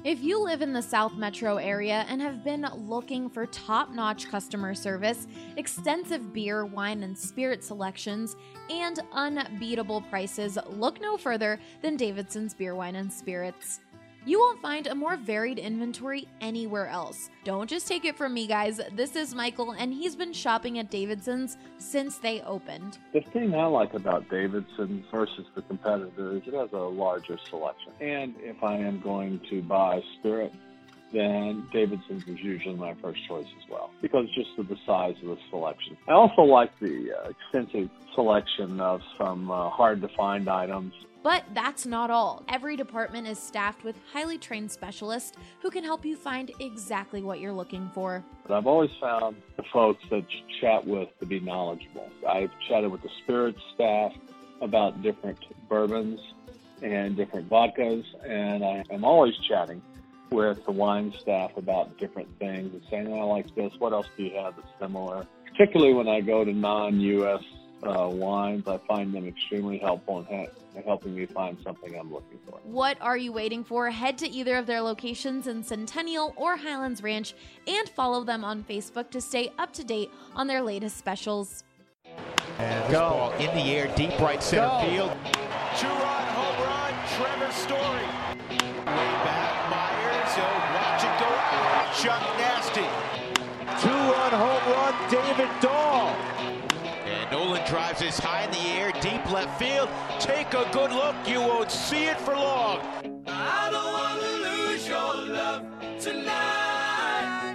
If you live in the South Metro area and have been looking for top-notch customer service, extensive beer, wine, and spirit selections, and unbeatable prices, look no further than Davidson's Beer, Wine, and Spirits. You won't find a more varied inventory anywhere else. Don't just take it from me, guys. This is Michael, and he's been shopping at Davidson's since they opened. The thing I like about Davidson's versus the competitor is it has a larger selection. And if I am going to buy spirit, then Davidson's is usually my first choice as well, because just of the size of the selection. I also like the extensive selection of some hard-to-find items. But that's not all. Every department is staffed with highly trained specialists who can help you find exactly what you're looking for. But I've always found the folks that you chat with to be knowledgeable. I've chatted with the spirits staff about different bourbons and different vodkas, and I am always chatting with the wine staff about different things and saying, I like this, what else do you have that's similar? Particularly when I go to non-U.S. wines, I find them extremely helpful in helping me find something I'm looking for. What are you waiting for? Head to either of their locations in Centennial or Highlands Ranch and follow them on Facebook to stay up to date on their latest specials. And this ball in the air, deep right center field. Two-run home run, Trevor Story. Way back, Myers, watch it go out. Chuck Nasty. Two-run home run, David Dahl. And Nolan drives this high in the air, deep left field. Take a good look, you won't see it for long. I don't want to lose your love tonight.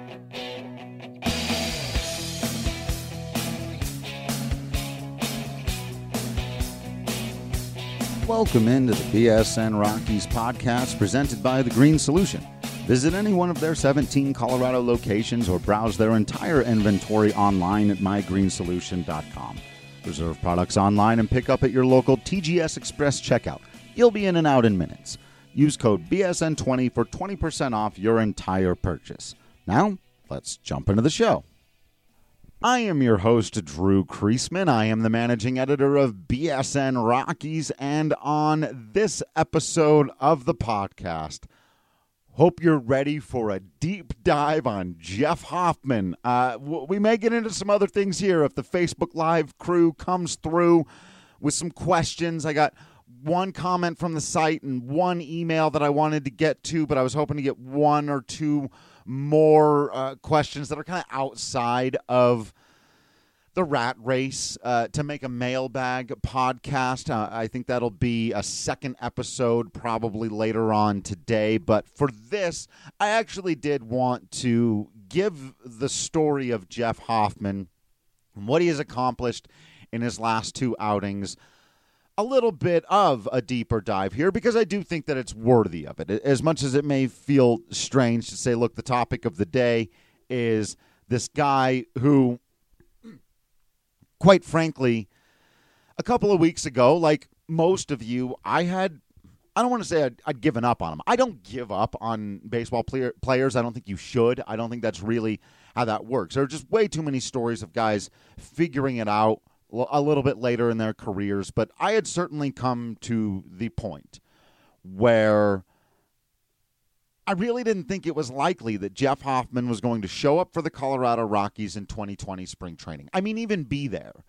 Welcome into the BSN Rockies podcast presented by The Green Solution. Visit any one of their 17 Colorado locations or browse their entire inventory online at mygreensolution.com. Reserve products online and pick up at your local TGS Express checkout. You'll be in and out in minutes. Use code BSN20 for 20% off your entire purchase. Now, let's jump into the show. I am your host, Drew Kreisman. I am the managing editor of BSN Rockies, and on this episode of the podcast, hope you're ready for a deep dive on Jeff Hoffman. We may get into some other things here if the Facebook Live crew comes through with some questions. I got one comment from the site and one email that I wanted to get to, but I was hoping to get one or two more questions that are kind of outside of the rat race to make a mailbag podcast. I think that'll be a second episode probably later on today. But for this, I actually did want to give the story of Jeff Hoffman and what he has accomplished in his last two outings a little bit of a deeper dive here, because I do think that it's worthy of it. As much as it may feel strange to say, look, the topic of the day is this guy who, quite frankly, a couple of weeks ago, like most of you, I don't want to say I'd given up on him. I don't give up on baseball players. I don't think you should. I don't think that's really how that works. There are just way too many stories of guys figuring it out a little bit later in their careers. But I had certainly come to the point where I really didn't think it was likely that Jeff Hoffman was going to show up for the Colorado Rockies in 2020 spring training. I mean, even be there.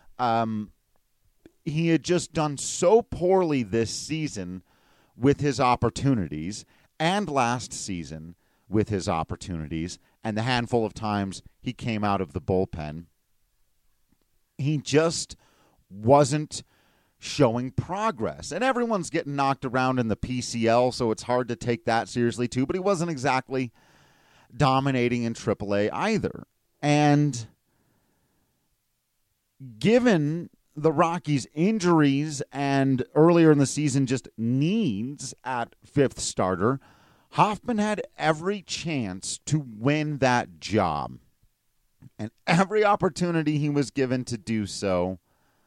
He had just done so poorly this season with his opportunities, and last season with his opportunities, and the handful of times he came out of the bullpen. He just wasn't showing progress. And everyone's getting knocked around in the PCL, so it's hard to take that seriously too, but he wasn't exactly dominating in AAA either. And given the Rockies' injuries and earlier in the season just needs at fifth starter, Hoffman had every chance to win that job. And every opportunity he was given to do so,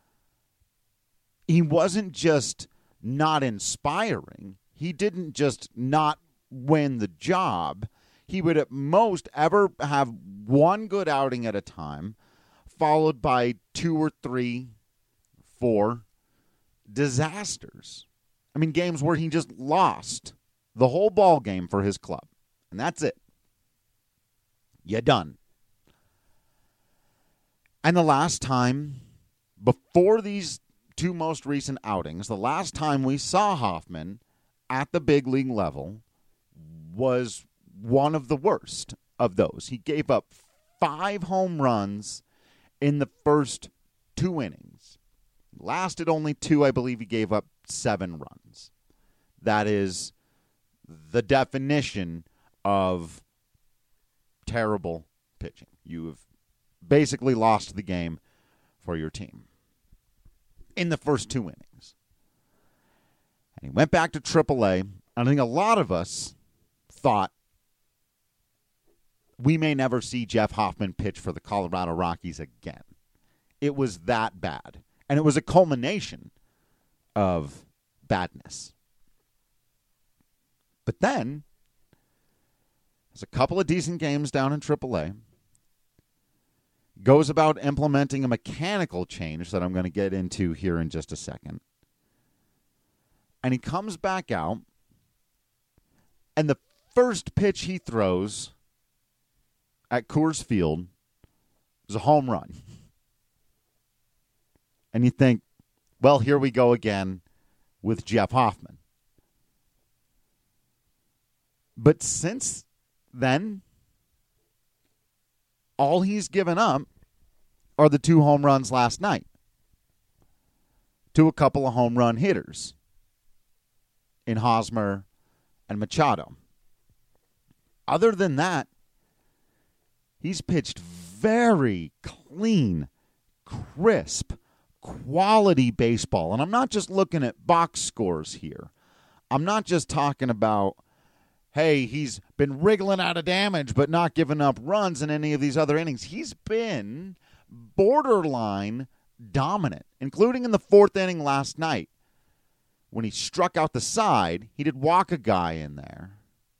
he wasn't just not inspiring. He didn't just not win the job. He would at most ever have one good outing at a time, followed by 2 or 3, 4 disasters. I mean, games where he just lost the whole ball game for his club. And that's it. You're done. And the last time, before these two most recent outings, the last time we saw Hoffman at the big league level was one of the worst of those. He gave up 5 home runs in the first 2 innings. Lasted only 2. I believe he gave up 7 runs. That is the definition of terrible pitching. You have basically lost the game for your team in the first 2 innings. And he went back to AAA, and I think a lot of us thought we may never see Jeff Hoffman pitch for the Colorado Rockies again. It was that bad. And it was a culmination of badness. But then, there's a couple of decent games down in AAA. Goes about implementing a mechanical change that I'm going to get into here in just a second. And he comes back out, and the first pitch he throws at Coors Field is a home run. And you think, well, here we go again with Jeff Hoffman. But since then, all he's given up are the 2 home runs last night to a couple of home run hitters in Hosmer and Machado. Other than that, he's pitched very clean, crisp, quality baseball. And I'm not just looking at box scores here. I'm not just talking about, hey, he's been wriggling out of damage but not giving up runs in any of these other innings. He's been borderline dominant, including in the 4th inning last night. When he struck out the side, he did walk a guy in there.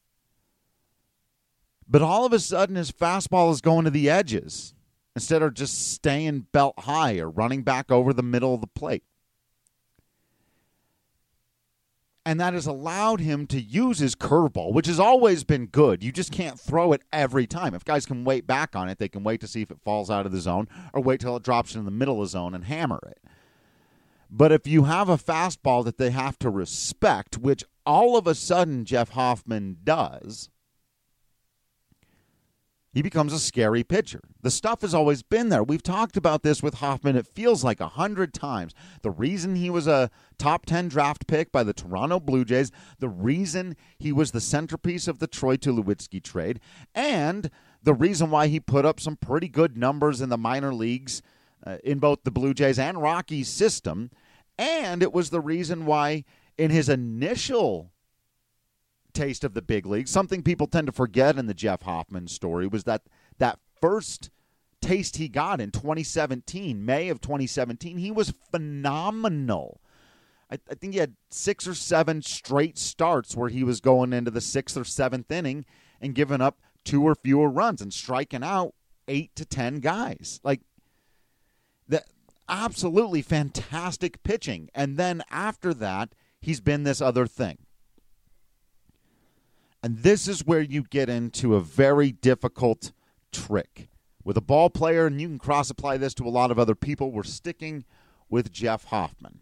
But all of a sudden, his fastball is going to the edges instead of just staying belt high or running back over the middle of the plate. And that has allowed him to use his curveball, which has always been good. You just can't throw it every time. If guys can wait back on it, they can wait to see if it falls out of the zone or wait till it drops in the middle of the zone and hammer it. But if you have a fastball that they have to respect, which all of a sudden Jeff Hoffman does, he becomes a scary pitcher. The stuff has always been there. We've talked about this with Hoffman, it feels like 100 times. The reason he was a top 10 draft pick by the Toronto Blue Jays, the reason he was the centerpiece of the Troy Tulowitzki trade, and the reason why he put up some pretty good numbers in the minor leagues in both the Blue Jays and Rockies system, and it was the reason why in his initial taste of the big league, something people tend to forget in the Jeff Hoffman story was that first taste he got in 2017, May of 2017, he was phenomenal. I think he had 6 or 7 straight starts where he was going into the 6th or 7th inning and giving up 2 or fewer runs and striking out 8 to 10 guys. Like, that absolutely fantastic pitching. And then after that, he's been this other thing. And this is where you get into a very difficult trick. With a ball player, and you can cross-apply this to a lot of other people, we're sticking with Jeff Hoffman.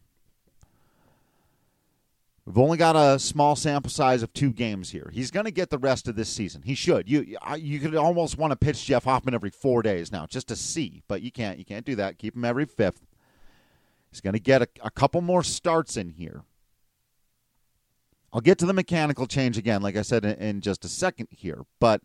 We've only got a small sample size of 2 games here. He's going to get the rest of this season. He should. You could almost want to pitch Jeff Hoffman every 4 days now just to see, but you can't. You can't do that. Keep him every 5th. He's going to get a couple more starts in here. I'll get to the mechanical change again, like I said, in just a second here. But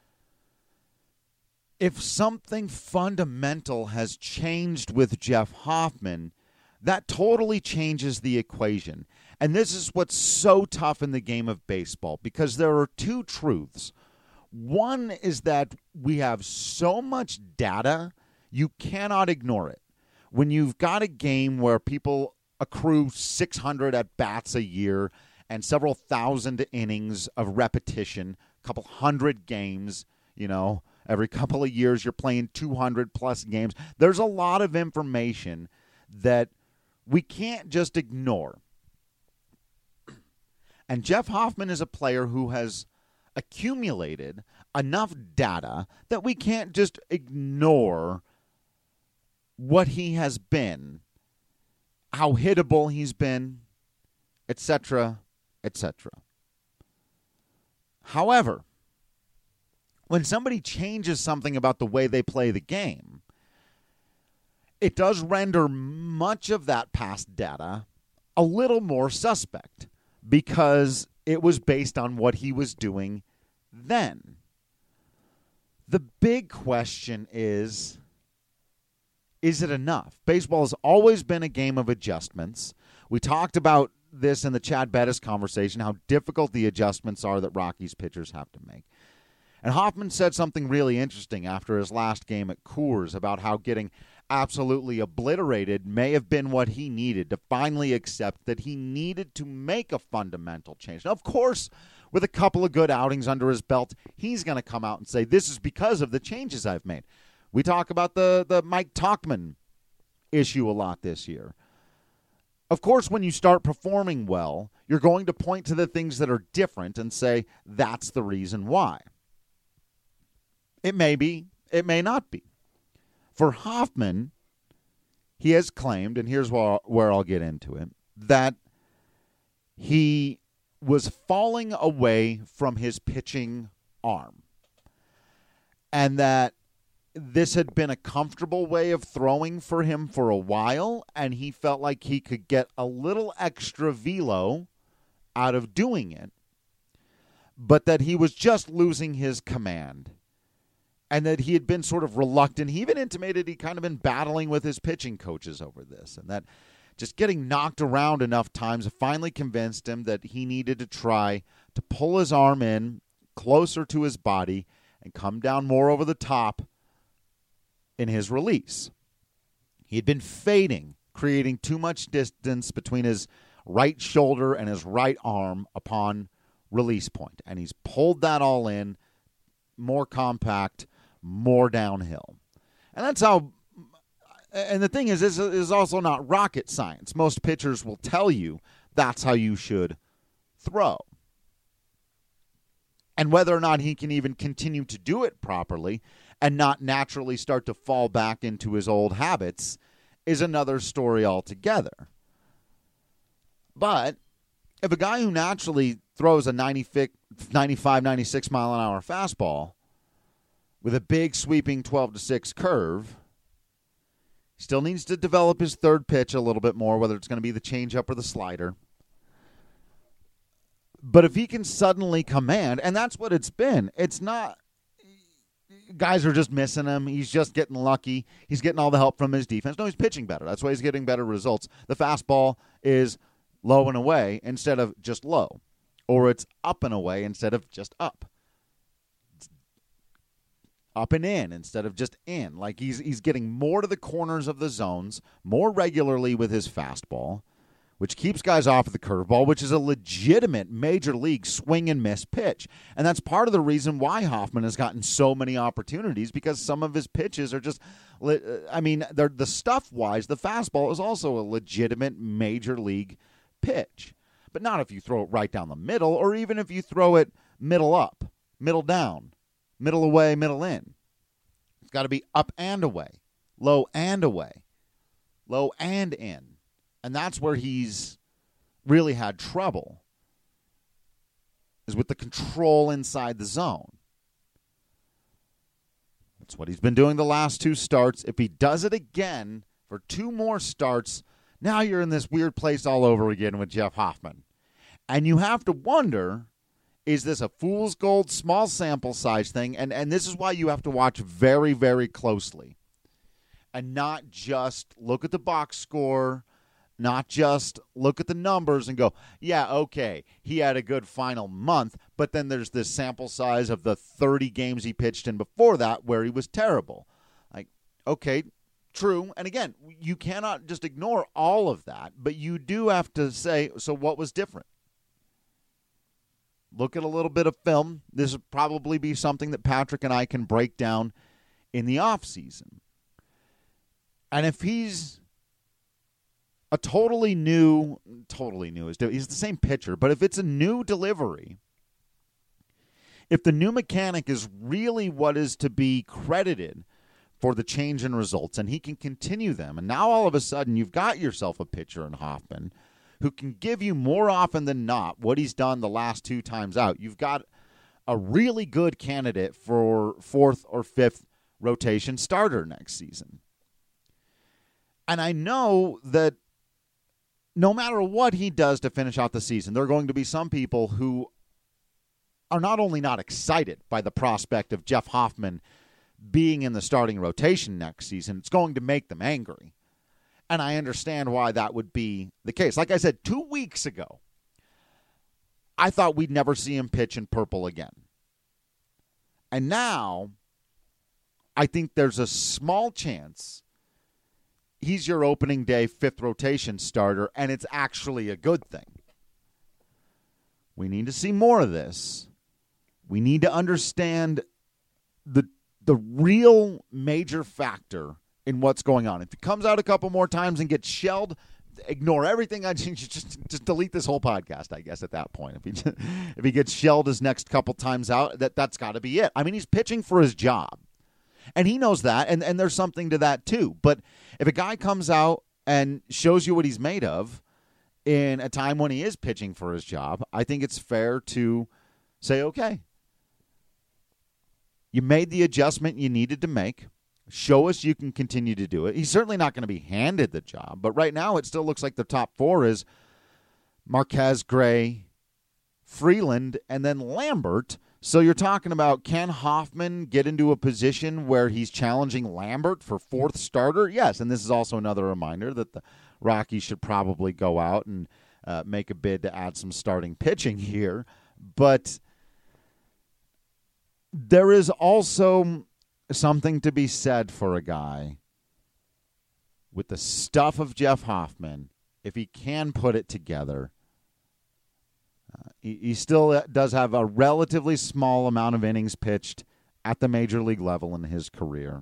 if something fundamental has changed with Jeff Hoffman, that totally changes the equation. And this is what's so tough in the game of baseball, because there are 2 truths. One is that we have so much data, you cannot ignore it. When you've got a game where people accrue 600 at-bats a year and several thousand innings of repetition, a couple hundred games, every couple of years you're playing 200-plus games. There's a lot of information that we can't just ignore. And Jeff Hoffman is a player who has accumulated enough data that we can't just ignore what he has been, how hittable he's been, etc., etc. However, when somebody changes something about the way they play the game, it does render much of that past data a little more suspect because it was based on what he was doing then. The big question is it enough? Baseball has always been a game of adjustments. We talked about this in the Chad Bettis conversation, how difficult the adjustments are that Rockies pitchers have to make. And Hoffman said something really interesting after his last game at Coors about how getting absolutely obliterated may have been what he needed to finally accept that he needed to make a fundamental change. Now, of course, with a couple of good outings under his belt, he's going to come out and say, this is because of the changes I've made. We talk about the Mike Tauchman issue a lot this year. Of course, when you start performing well, you're going to point to the things that are different and say, that's the reason why. It may be, it may not be. For Hoffman, he has claimed, and here's where I'll get into it, that he was falling away from his pitching arm. And that this had been a comfortable way of throwing for him for a while, and he felt like he could get a little extra velo out of doing it, but that he was just losing his command. And that he had been sort of reluctant. He even intimated he'd kind of been battling with his pitching coaches over this. And that just getting knocked around enough times finally convinced him that he needed to try to pull his arm in closer to his body and come down more over the top in his release. He had been fading, creating too much distance between his right shoulder and his right arm upon release point. And he's pulled that all in, more compact, more downhill. And that's how, and the thing is, this is also not rocket science. Most pitchers will tell you that's how you should throw. And whether or not he can even continue to do it properly and not naturally start to fall back into his old habits is another story altogether. But if a guy who naturally throws a 95, 96 mile an hour fastball with a big sweeping 12-6 curve, still needs to develop his third pitch a little bit more, whether it's going to be the changeup or the slider. But if he can suddenly command, and that's what it's been, it's not guys are just missing him. He's just getting lucky. He's getting all the help from his defense. No, he's pitching better. That's why he's getting better results. The fastball is low and away instead of just low, or it's up and away instead of just up. Up and in instead of just in. Like he's getting more to the corners of the zones more regularly with his fastball, which keeps guys off of the curveball, which is a legitimate major league swing and miss pitch. And that's part of the reason why Hoffman has gotten so many opportunities, because some of his pitches are just, I mean, they're the stuff-wise, the fastball is also a legitimate major league pitch. But not if you throw it right down the middle, or even if you throw it middle up, middle down, middle away, middle in. It's got to be up and away, low and away, low and in. And that's where he's really had trouble, is with the control inside the zone. That's what he's been doing the last two starts. If he does it again for two more starts, now you're in this weird place all over again with Jeff Hoffman. And you have to wonder, is this a fool's gold, small sample size thing? And this is why you have to watch very, very closely. And not just look at the box score, not just look at the numbers and go, yeah, okay, he had a good final month, but then there's this sample size of the 30 games he pitched in before that where he was terrible. Like, okay, true. And again, you cannot just ignore all of that, but you do have to say, so what was different? Look at a little bit of film. This would probably be something that Patrick and I can break down in the offseason. And if he's a totally new, he's the same pitcher, but if it's a new delivery, if the new mechanic is really what is to be credited for the change in results, and he can continue them, and now all of a sudden you've got yourself a pitcher in Hoffman who can give you more often than not what he's done the last 2 times out. You've got a really good candidate for 4th or 5th rotation starter next season. And I know that no matter what he does to finish out the season, there are going to be some people who are not only not excited by the prospect of Jeff Hoffman being in the starting rotation next season, it's going to make them angry. And I understand why that would be the case. Like I said, 2 weeks ago, I thought we'd never see him pitch in purple again. And now, I think there's a small chance he's your opening day 5th rotation starter, and it's actually a good thing. We need to see more of this. We need to understand the real major factor in what's going on. If he comes out a couple more times and gets shelled, ignore everything. Just delete this whole podcast, I guess, at that point. If he gets shelled his next couple times out, that's got to be it. I mean, he's pitching for his job. And he knows that, and there's something to that too. But if a guy comes out and shows you what he's made of in a time when he is pitching for his job, I think it's fair to say, okay, you made the adjustment you needed to make. Show us you can continue to do it. He's certainly not going to be handed the job, but right now it still looks like the top 4 is Marquez, Gray, Freeland, and then Lambert. So you're talking about, can Hoffman get into a position where he's challenging Lambert for 4th starter? Yes, and this is also another reminder that the Rockies should probably go out and make a bid to add some starting pitching here. But there is also something to be said for a guy with the stuff of Jeff Hoffman, if he can put it together. He still does have a relatively small amount of innings pitched at the major league level in his career.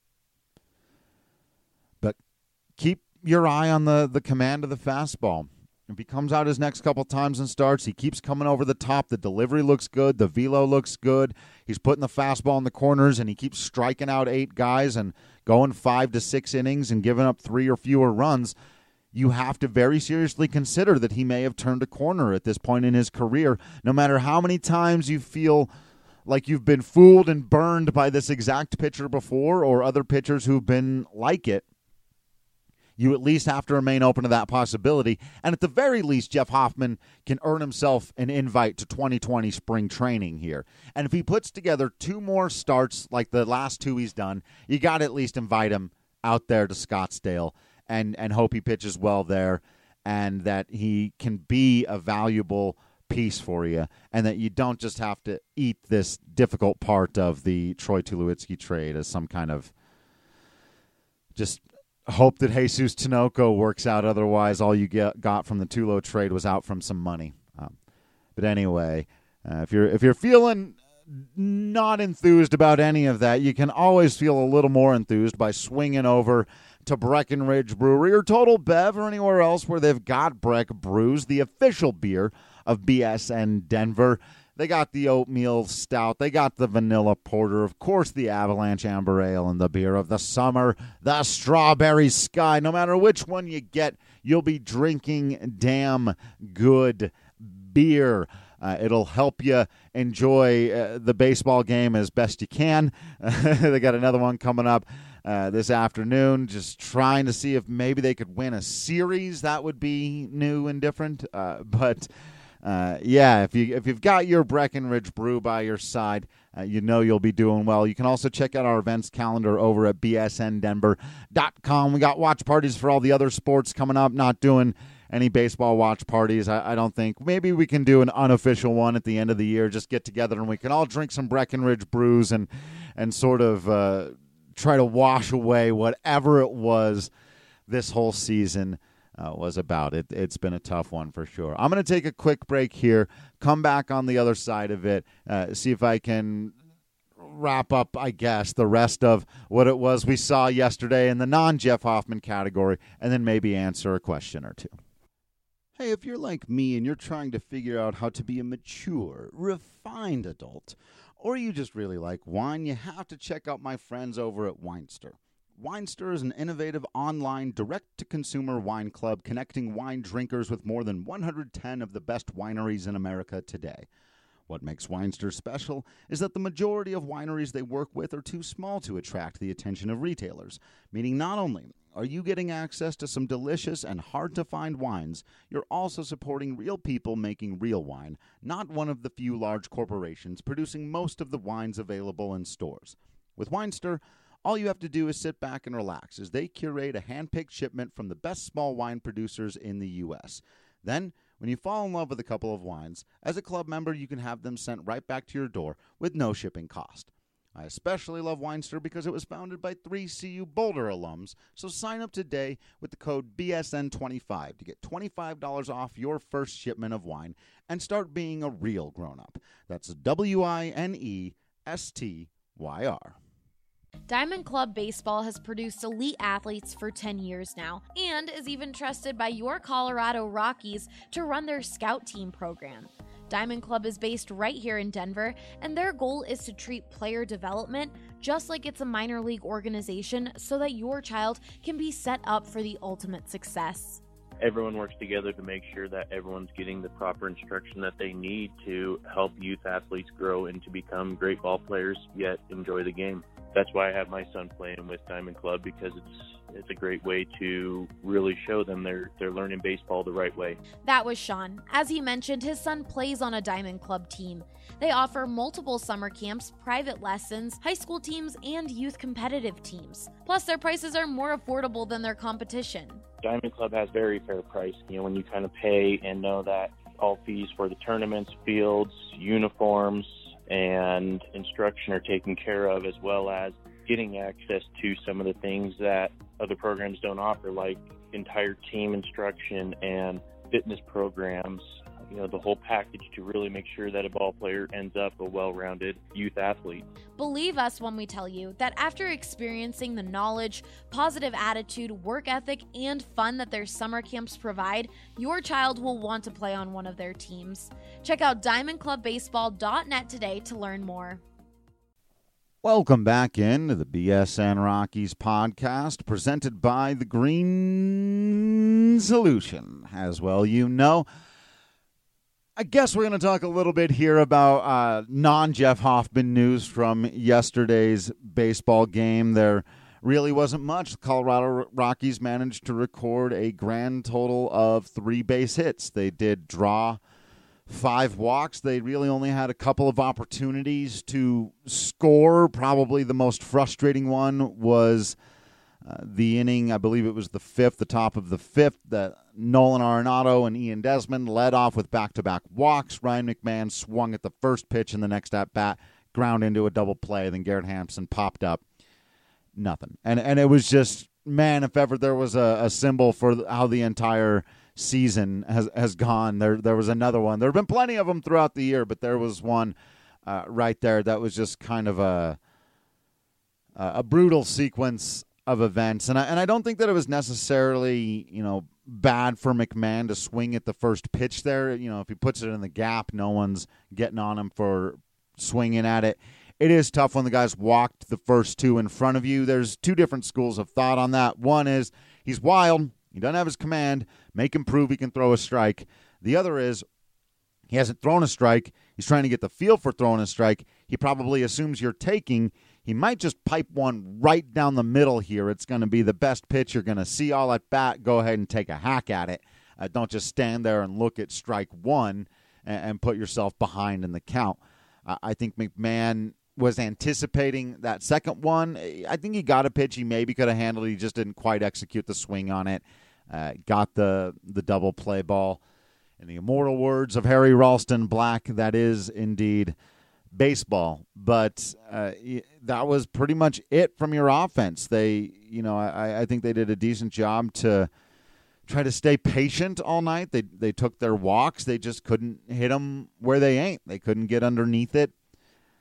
But keep your eye on the command of the fastball. If he comes out his next couple times and starts, he keeps coming over the top. The delivery looks good. The velo looks good. He's putting the fastball in the corners, and he keeps striking out 8 guys and going 5 to 6 innings and giving up 3 or fewer runs. You have to very seriously consider that he may have turned a corner at this point in his career. No matter how many times you feel like you've been fooled and burned by this exact pitcher before or other pitchers who've been like it, you at least have to remain open to that possibility. And at the very least, Jeff Hoffman can earn himself an invite to 2020 spring training here. And if he puts together 2 more starts like the last 2 he's done, you got to at least invite him out there to Scottsdale and hope he pitches well there and that he can be a valuable piece for you and that you don't just have to eat this difficult part of the Troy Tulowitzki trade as some kind of just hope that Jesus Tinoco works out. Otherwise, all you got from the Tulo trade was out from some money. But anyway, if you're feeling not enthused about any of that, you can always feel a little more enthused by swinging over to Breckenridge Brewery or Total Bev or anywhere else where they've got Breck Brews, the official beer of BSN Denver. They got the oatmeal stout. They got the vanilla porter. Of course, the Avalanche Amber Ale and the beer of the summer, the Strawberry Sky. No matter which one you get, you'll be drinking damn good beer. It'll help you enjoy the baseball game as best you can. They got another one coming up this afternoon, just trying to see if maybe they could win a series. That would be new and different. But if you've got your Breckenridge Brew by your side, you know you'll be doing well. You can also check out our events calendar over at bsndenver.com. We got watch parties for all the other sports coming up. Not doing any baseball watch parties, I don't think. Maybe we can do an unofficial one at the end of the year, just get together and we can all drink some Breckenridge brews and sort of try to wash away whatever it was this whole season was about. It's been a tough one for sure. I'm going to take a quick break here, come back on the other side of it, see if I can wrap up, I guess, the rest of what it was we saw yesterday in the non-Jeff Hoffman category, and then maybe answer a question or two. Hey, if you're like me and you're trying to figure out how to be a mature, refined adult, or you just really like wine, you have to check out my friends over at Winester. Winester is an innovative online direct-to-consumer wine club connecting wine drinkers with more than 110 of the best wineries in America today. What makes Winester special is that the majority of wineries they work with are too small to attract the attention of retailers, meaning not only are you getting access to some delicious and hard-to-find wines, you're also supporting real people making real wine, not one of the few large corporations producing most of the wines available in stores. With Winester, all you have to do is sit back and relax as they curate a hand-picked shipment from the best small wine producers in the U.S. Then, when you fall in love with a couple of wines, as a club member, you can have them sent right back to your door with no shipping cost. I especially love Winester because it was founded by 3 CU Boulder alums, so sign up today with the code BSN25 to get $25 off your first shipment of wine and start being a real grown-up. That's WINESTYR. Diamond Club Baseball has produced elite athletes for 10 years now and is even trusted by your Colorado Rockies to run their scout team program. Diamond Club is based right here in Denver, and their goal is to treat player development just like it's a minor league organization so that your child can be set up for the ultimate success. Everyone works together to make sure that everyone's getting the proper instruction that they need to help youth athletes grow and to become great ball players, yet enjoy the game. That's why I have my son playing with Diamond Club, because it's a great way to really show them they're learning baseball the right way. That was Sean. As he mentioned, his son plays on a Diamond Club team. They offer multiple summer camps, private lessons, high school teams, and youth competitive teams. Plus, their prices are more affordable than their competition. Diamond Club has very fair price. When you kind of pay and know that all fees for the tournaments, fields, uniforms, and instruction are taken care of, as well as getting access to some of the things that other programs don't offer, like entire team instruction and fitness programs, the whole package to really make sure that a ball player ends up a well-rounded youth athlete. Believe us when we tell you that after experiencing the knowledge, positive attitude, work ethic, and fun that their summer camps provide, your child will want to play on one of their teams. Check out diamondclubbaseball.net today to learn more. Welcome back into the BSN Rockies podcast, presented by the Green Solution. As well, I guess we're going to talk a little bit here about non-Jeff Hoffman news from yesterday's baseball game. There really wasn't much. The Colorado Rockies managed to record a grand total of 3 base hits. They did draw 5 walks. They really only had a couple of opportunities to score. Probably the most frustrating one was the inning, I believe it was the top of the 5th, that Nolan Arenado and Ian Desmond led off with back-to-back walks. Ryan McMahon swung at the first pitch in the next at-bat, ground into a double play. Then Garrett Hampson popped up. Nothing. And it was just, man, if ever there was a symbol for how the entire season has gone, there was another one. There have been plenty of them throughout the year, but there was one right there that was just kind of a brutal sequence of events. And I don't think that it was necessarily, bad for McMahon to swing at the first pitch there. If he puts it in the gap, no one's getting on him for swinging at it. It is tough when the guys walked the first 2 in front of you. There's 2 different schools of thought on that. One is he's wild. He doesn't have his command. Make him prove he can throw a strike. The other is he hasn't thrown a strike. He's trying to get the feel for throwing a strike. He probably assumes you're taking. He might just pipe one right down the middle here. It's going to be the best pitch you're going to see all at bat. Go ahead and take a hack at it. Don't just stand there and look at strike 1 and put yourself behind in the count. I think McMahon was anticipating that second one. I think he got a pitch he maybe could have handled. He just didn't quite execute the swing on it. Got the double play ball. In the immortal words of Harry Ralston Black, that is indeed baseball. But that was pretty much it from your offense. They, I think they did a decent job to try to stay patient all night. They took their walks. They just couldn't hit them where they ain't. They couldn't get underneath it.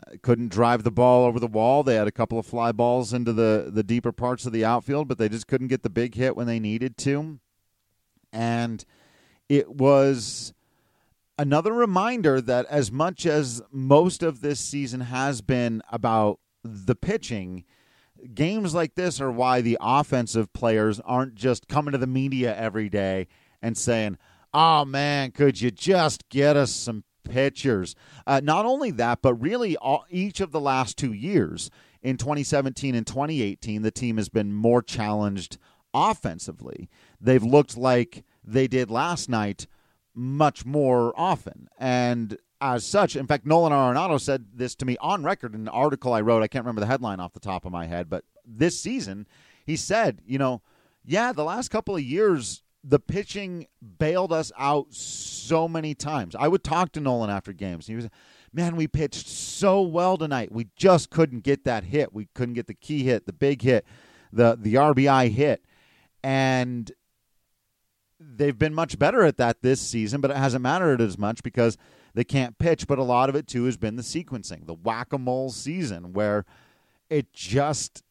Couldn't drive the ball over the wall. They had a couple of fly balls into the deeper parts of the outfield, but they just couldn't get the big hit when they needed to. And it was another reminder that as much as most of this season has been about the pitching, games like this are why the offensive players aren't just coming to the media every day and saying, oh, man, could you just get us some pitchers? Not only that, but really each of the last 2 years, in 2017 and 2018, the team has been more challenged offensively. They've looked like they did last night much more often. And as such, in fact, Nolan Arenado said this to me on record in an article I wrote. I can't remember the headline off the top of my head, but this season, he said, the last couple of years, the pitching bailed us out so many times. I would talk to Nolan after games. He was, man, we pitched so well tonight. We just couldn't get that hit. We couldn't get the key hit, the big hit, the RBI hit. And they've been much better at that this season, but it hasn't mattered as much because they can't pitch. But a lot of it, too, has been the sequencing, the whack-a-mole season, where it just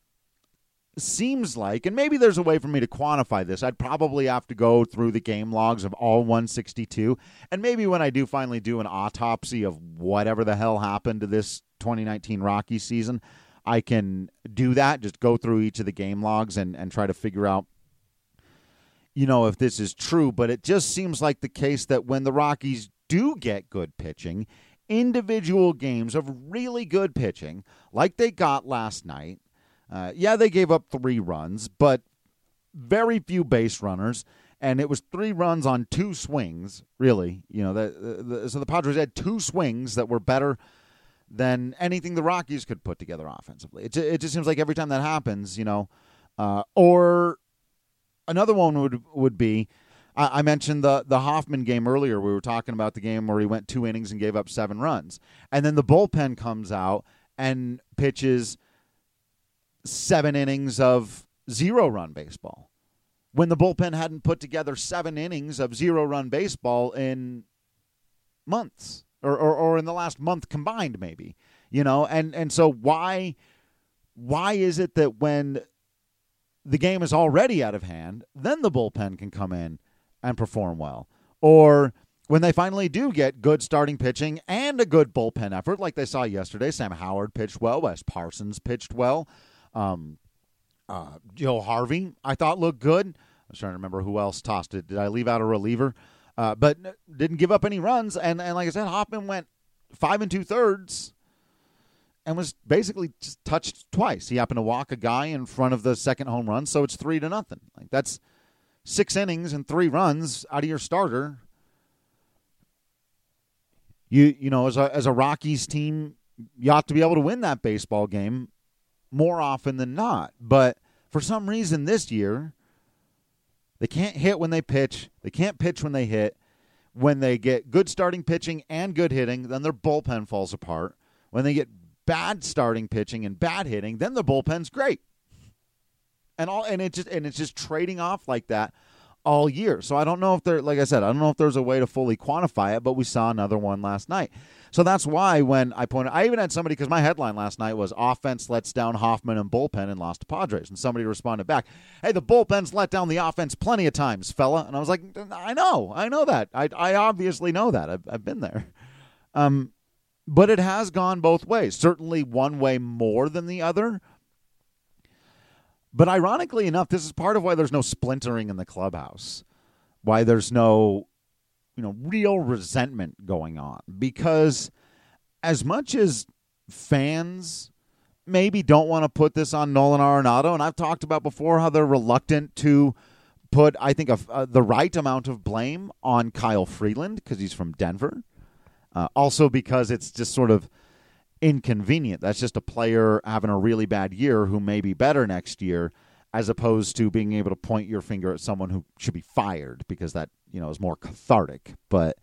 seems like, and maybe there's a way for me to quantify this. I'd probably have to go through the game logs of all 162, and maybe when I do finally do an autopsy of whatever the hell happened to this 2019 Rockies season, I can do that, just go through each of the game logs and try to figure out, if this is true. But it just seems like the case that when the Rockies do get good pitching, individual games of really good pitching, like they got last night, they gave up 3 runs, but very few base runners, and it was 3 runs on 2 swings, really. So the Padres had 2 swings that were better than anything the Rockies could put together offensively. It just seems like every time that happens, or another one would be, I mentioned the Hoffman game earlier. We were talking about the game where he went 2 innings and gave up 7 runs. And then the bullpen comes out and pitches 7 innings of 0-run baseball, when the bullpen hadn't put together 7 innings of 0-run baseball in months, or in the last month combined, maybe. And so why is it that when the game is already out of hand, then the bullpen can come in and perform well? Or when they finally do get good starting pitching and a good bullpen effort, like they saw yesterday, Sam Howard pitched well, Wes Parsons pitched well, Joe Harvey, I thought, looked good. I was trying to remember who else tossed it. Did I leave out a reliever? But didn't give up any runs. And like I said, Hoffman went 5 2/3 and was basically just touched twice. He happened to walk a guy in front of the second home run, so it's 3-0. Like, that's 6 innings and 3 runs out of your starter. As a Rockies team, you ought to be able to win that baseball game more often than not. But for some reason this year, they can't hit when they pitch. They can't pitch when they hit. When they get good starting pitching and good hitting, then their bullpen falls apart. When they get bad starting pitching and bad hitting, then the bullpen's great. And it's just trading off like that all year. So I don't know if I don't know if there's a way to fully quantify it, but we saw another one last night. So that's why when I even had somebody, because my headline last night was offense lets down Hoffman and bullpen and lost to Padres. And somebody responded back, hey, the bullpen's let down the offense plenty of times, fella. And I was like, I know that. I obviously know that. I've been there. But it has gone both ways. Certainly one way more than the other. But ironically enough, this is part of why there's no splintering in the clubhouse, why there's no, real resentment going on. Because as much as fans maybe don't want to put this on Nolan Arenado, and I've talked about before how they're reluctant to put, I think, the right amount of blame on Kyle Freeland because he's from Denver. Also because it's just sort of inconvenient. That's just a player having a really bad year who may be better next year, as opposed to being able to point your finger at someone who should be fired, because that, is more cathartic. But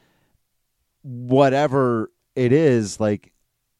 whatever it is, like,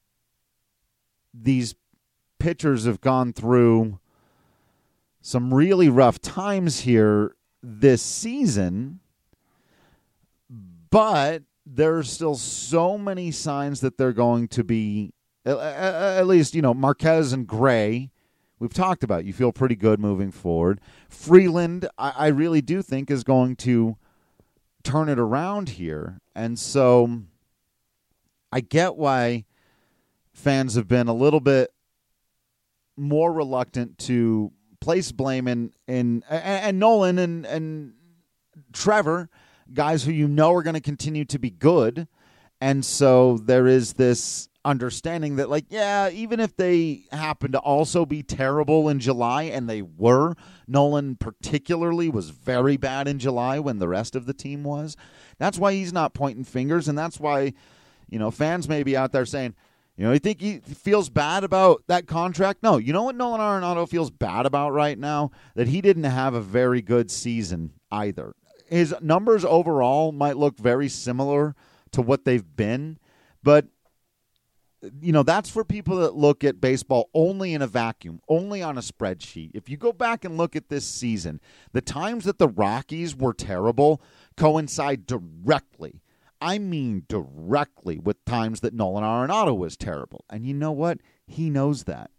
these pitchers have gone through some really rough times here this season, but there's still so many signs that they're going to be, at least, Marquez and Gray, we've talked about. You feel pretty good moving forward. Freeland, I really do think, is going to turn it around here. And so I get why fans have been a little bit more reluctant to place blame in and Nolan and Trevor, guys who are going to continue to be good. And so there is this understanding that, even if they happen to also be terrible in July, and they were, Nolan particularly was very bad in July when the rest of the team was. That's why he's not pointing fingers, and that's why, fans may be out there saying, you think he feels bad about that contract? No. You know what Nolan Arenado feels bad about right now? That he didn't have a very good season either. His numbers overall might look very similar to what they've been, but that's for people that look at baseball only in a vacuum, only on a spreadsheet. If you go back and look at this season, the times that the Rockies were terrible coincide directly. I mean directly with times that Nolan Arenado was terrible. And you know what? He knows that.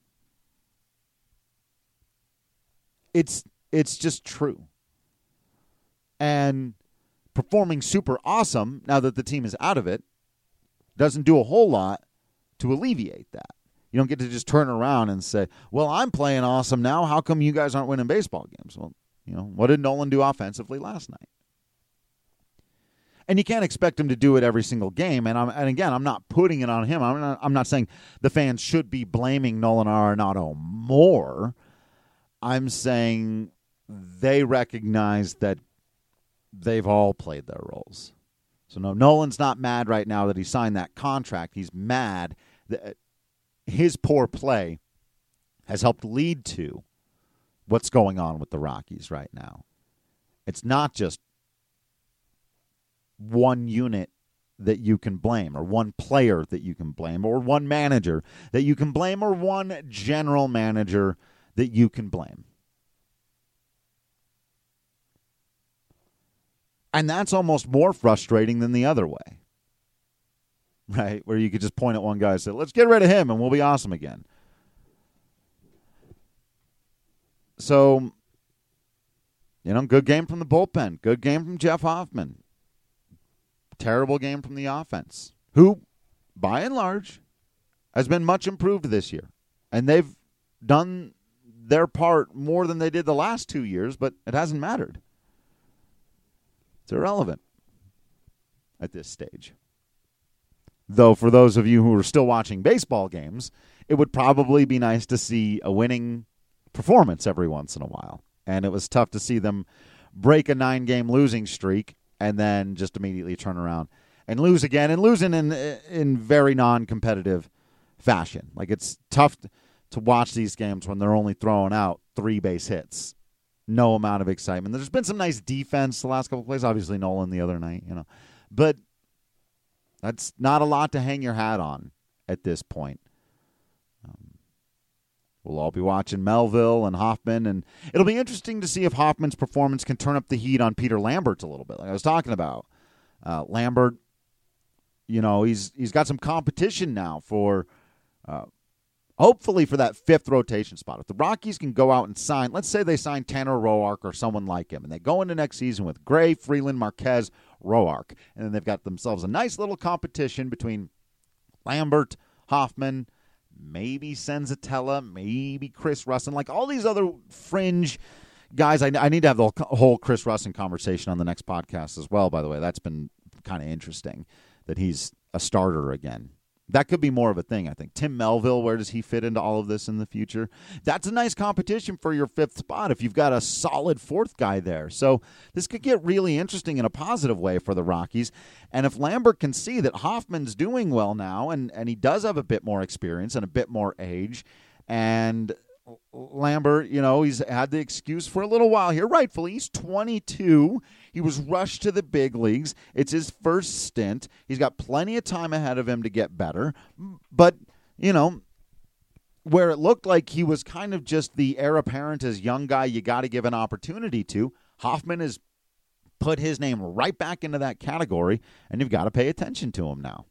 It's just true. And performing super awesome now that the team is out of it doesn't do a whole lot to alleviate that. You don't get to just turn around and say, well, I'm playing awesome now. How come you guys aren't winning baseball games? Well, what did Nolan do offensively last night? And you can't expect him to do it every single game. And again, I'm not putting it on him. I'm not saying the fans should be blaming Nolan Arenado more. I'm saying they recognize that they've all played their roles. So no, Nolan's not mad right now that he signed that contract. He's mad that his poor play has helped lead to what's going on with the Rockies right now. It's not just one unit that you can blame, or one player that you can blame, or one manager that you can blame, or one general manager that you can blame. And that's almost more frustrating than the other way, right? Where you could just point at one guy and say, let's get rid of him and we'll be awesome again. So, good game from the bullpen. Good game from Jeff Hoffman. Terrible game from the offense, who, by and large, has been much improved this year. And they've done their part more than they did the last 2 years, but it hasn't mattered. It's irrelevant at this stage. Though for those of you who are still watching baseball games, it would probably be nice to see a winning performance every once in a while. And it was tough to see them break a 9-game losing streak and then just immediately turn around and lose again, and losing in very non-competitive fashion. Like, it's tough to watch these games when they're only throwing out 3 base hits. No amount of excitement. There's been some nice defense the last couple of plays. Obviously, Nolan the other night, But that's not a lot to hang your hat on at this point. We'll all be watching Melville and Hoffman, and it'll be interesting to see if Hoffman's performance can turn up the heat on Peter Lambert a little bit, like I was talking about. Lambert, he's got some competition now for hopefully for that 5th rotation spot. If the Rockies can go out and sign, let's say they sign Tanner Roark or someone like him, and they go into next season with Gray, Freeland, Marquez, Roark, and then they've got themselves a nice little competition between Lambert, Hoffman, maybe Senzatella, maybe Chris Russin, like all these other fringe guys. I need to have the whole Chris Russin conversation on the next podcast as well, by the way. That's been kind of interesting that he's a starter again. That could be more of a thing, I think. Tim Melville, where does he fit into all of this in the future? That's a nice competition for your 5th spot if you've got a solid 4th guy there. So this could get really interesting in a positive way for the Rockies. And if Lambert can see that Hoffman's doing well now, and he does have a bit more experience and a bit more age, and Lambert, he's had the excuse for a little while here, rightfully. He's 22. He was rushed to the big leagues. It's his first stint. He's got plenty of time ahead of him to get better. But, where it looked like he was kind of just the heir apparent as young guy you got to give an opportunity to, Hoffman is put his name right back into that category, and you've got to pay attention to him now.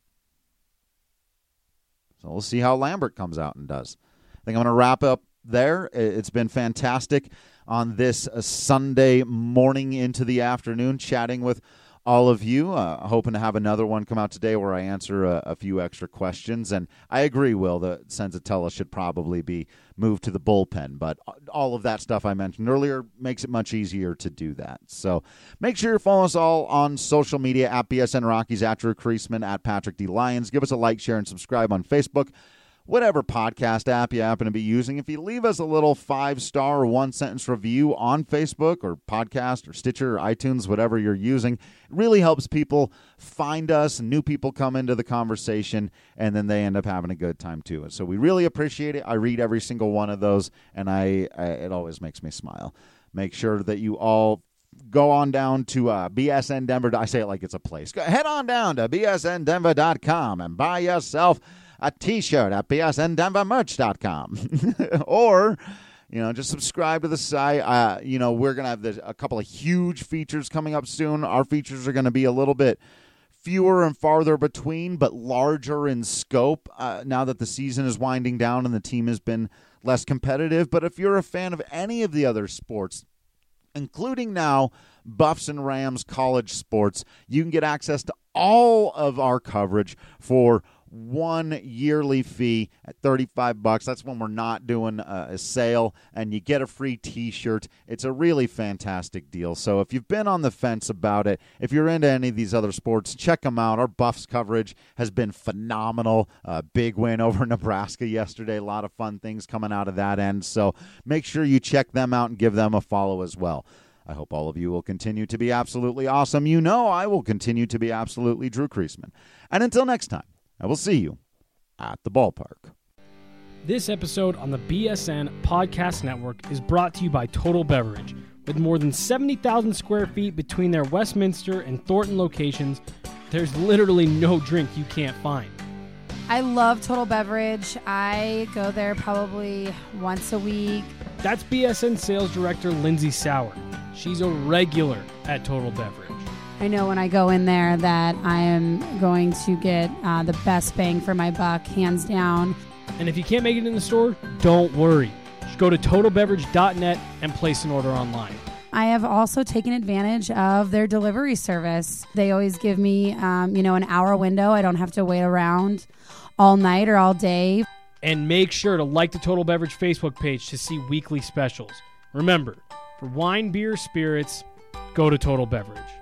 So we'll see how Lambert comes out and does. I think I'm going to wrap up there. It's been fantastic on this Sunday morning into the afternoon chatting with all of you. Hoping to have another one come out today where I answer a few extra questions. And I agree, Will, that Senzatella should probably be moved to the bullpen. But all of that stuff I mentioned earlier makes it much easier to do that. So make sure you follow us all on social media at BSN Rockies, at Drew Creasman, at Patrick D. Lyons. Give us a like, share, and subscribe on Facebook. Whatever podcast app you happen to be using, if you leave us a little 5-star or 1-sentence review on Facebook or podcast or Stitcher or iTunes, whatever you're using, it really helps people find us. New people come into the conversation, and then they end up having a good time too. So we really appreciate it. I read every single one of those, and it always makes me smile. Make sure that you all go on down to BSN Denver. I say it like it's a place. Head on down to bsndenver.com and buy yourself a T-shirt at bsndenvermerch.com. Or, just subscribe to the site. We're going to have a couple of huge features coming up soon. Our features are going to be a little bit fewer and farther between, but larger in scope now that the season is winding down and the team has been less competitive. But if you're a fan of any of the other sports, including now Buffs and Rams college sports, you can get access to all of our coverage for one yearly fee at $35. That's when we're not doing a sale, and you get a free T-shirt. It's a really fantastic deal. So if you've been on the fence about it, if you're into any of these other sports, check them out. Our Buffs coverage has been phenomenal. Big win over Nebraska yesterday. A lot of fun things coming out of that end. So make sure you check them out and give them a follow as well. I hope all of you will continue to be absolutely awesome. I will continue to be absolutely Drew Creasman. And until next time, I will see you at the ballpark. This episode on the BSN Podcast Network is brought to you by Total Beverage. With more than 70,000 square feet between their Westminster and Thornton locations, there's literally no drink you can't find. I love Total Beverage. I go there probably once a week. That's BSN Sales Director Lindsay Sauer. She's a regular at Total Beverage. I know when I go in there that I am going to get the best bang for my buck, hands down. And if you can't make it in the store, don't worry. Just go to totalbeverage.net and place an order online. I have also taken advantage of their delivery service. They always give me, an hour window. I don't have to wait around all night or all day. And make sure to like the Total Beverage Facebook page to see weekly specials. Remember, for wine, beer, spirits, go to Total Beverage.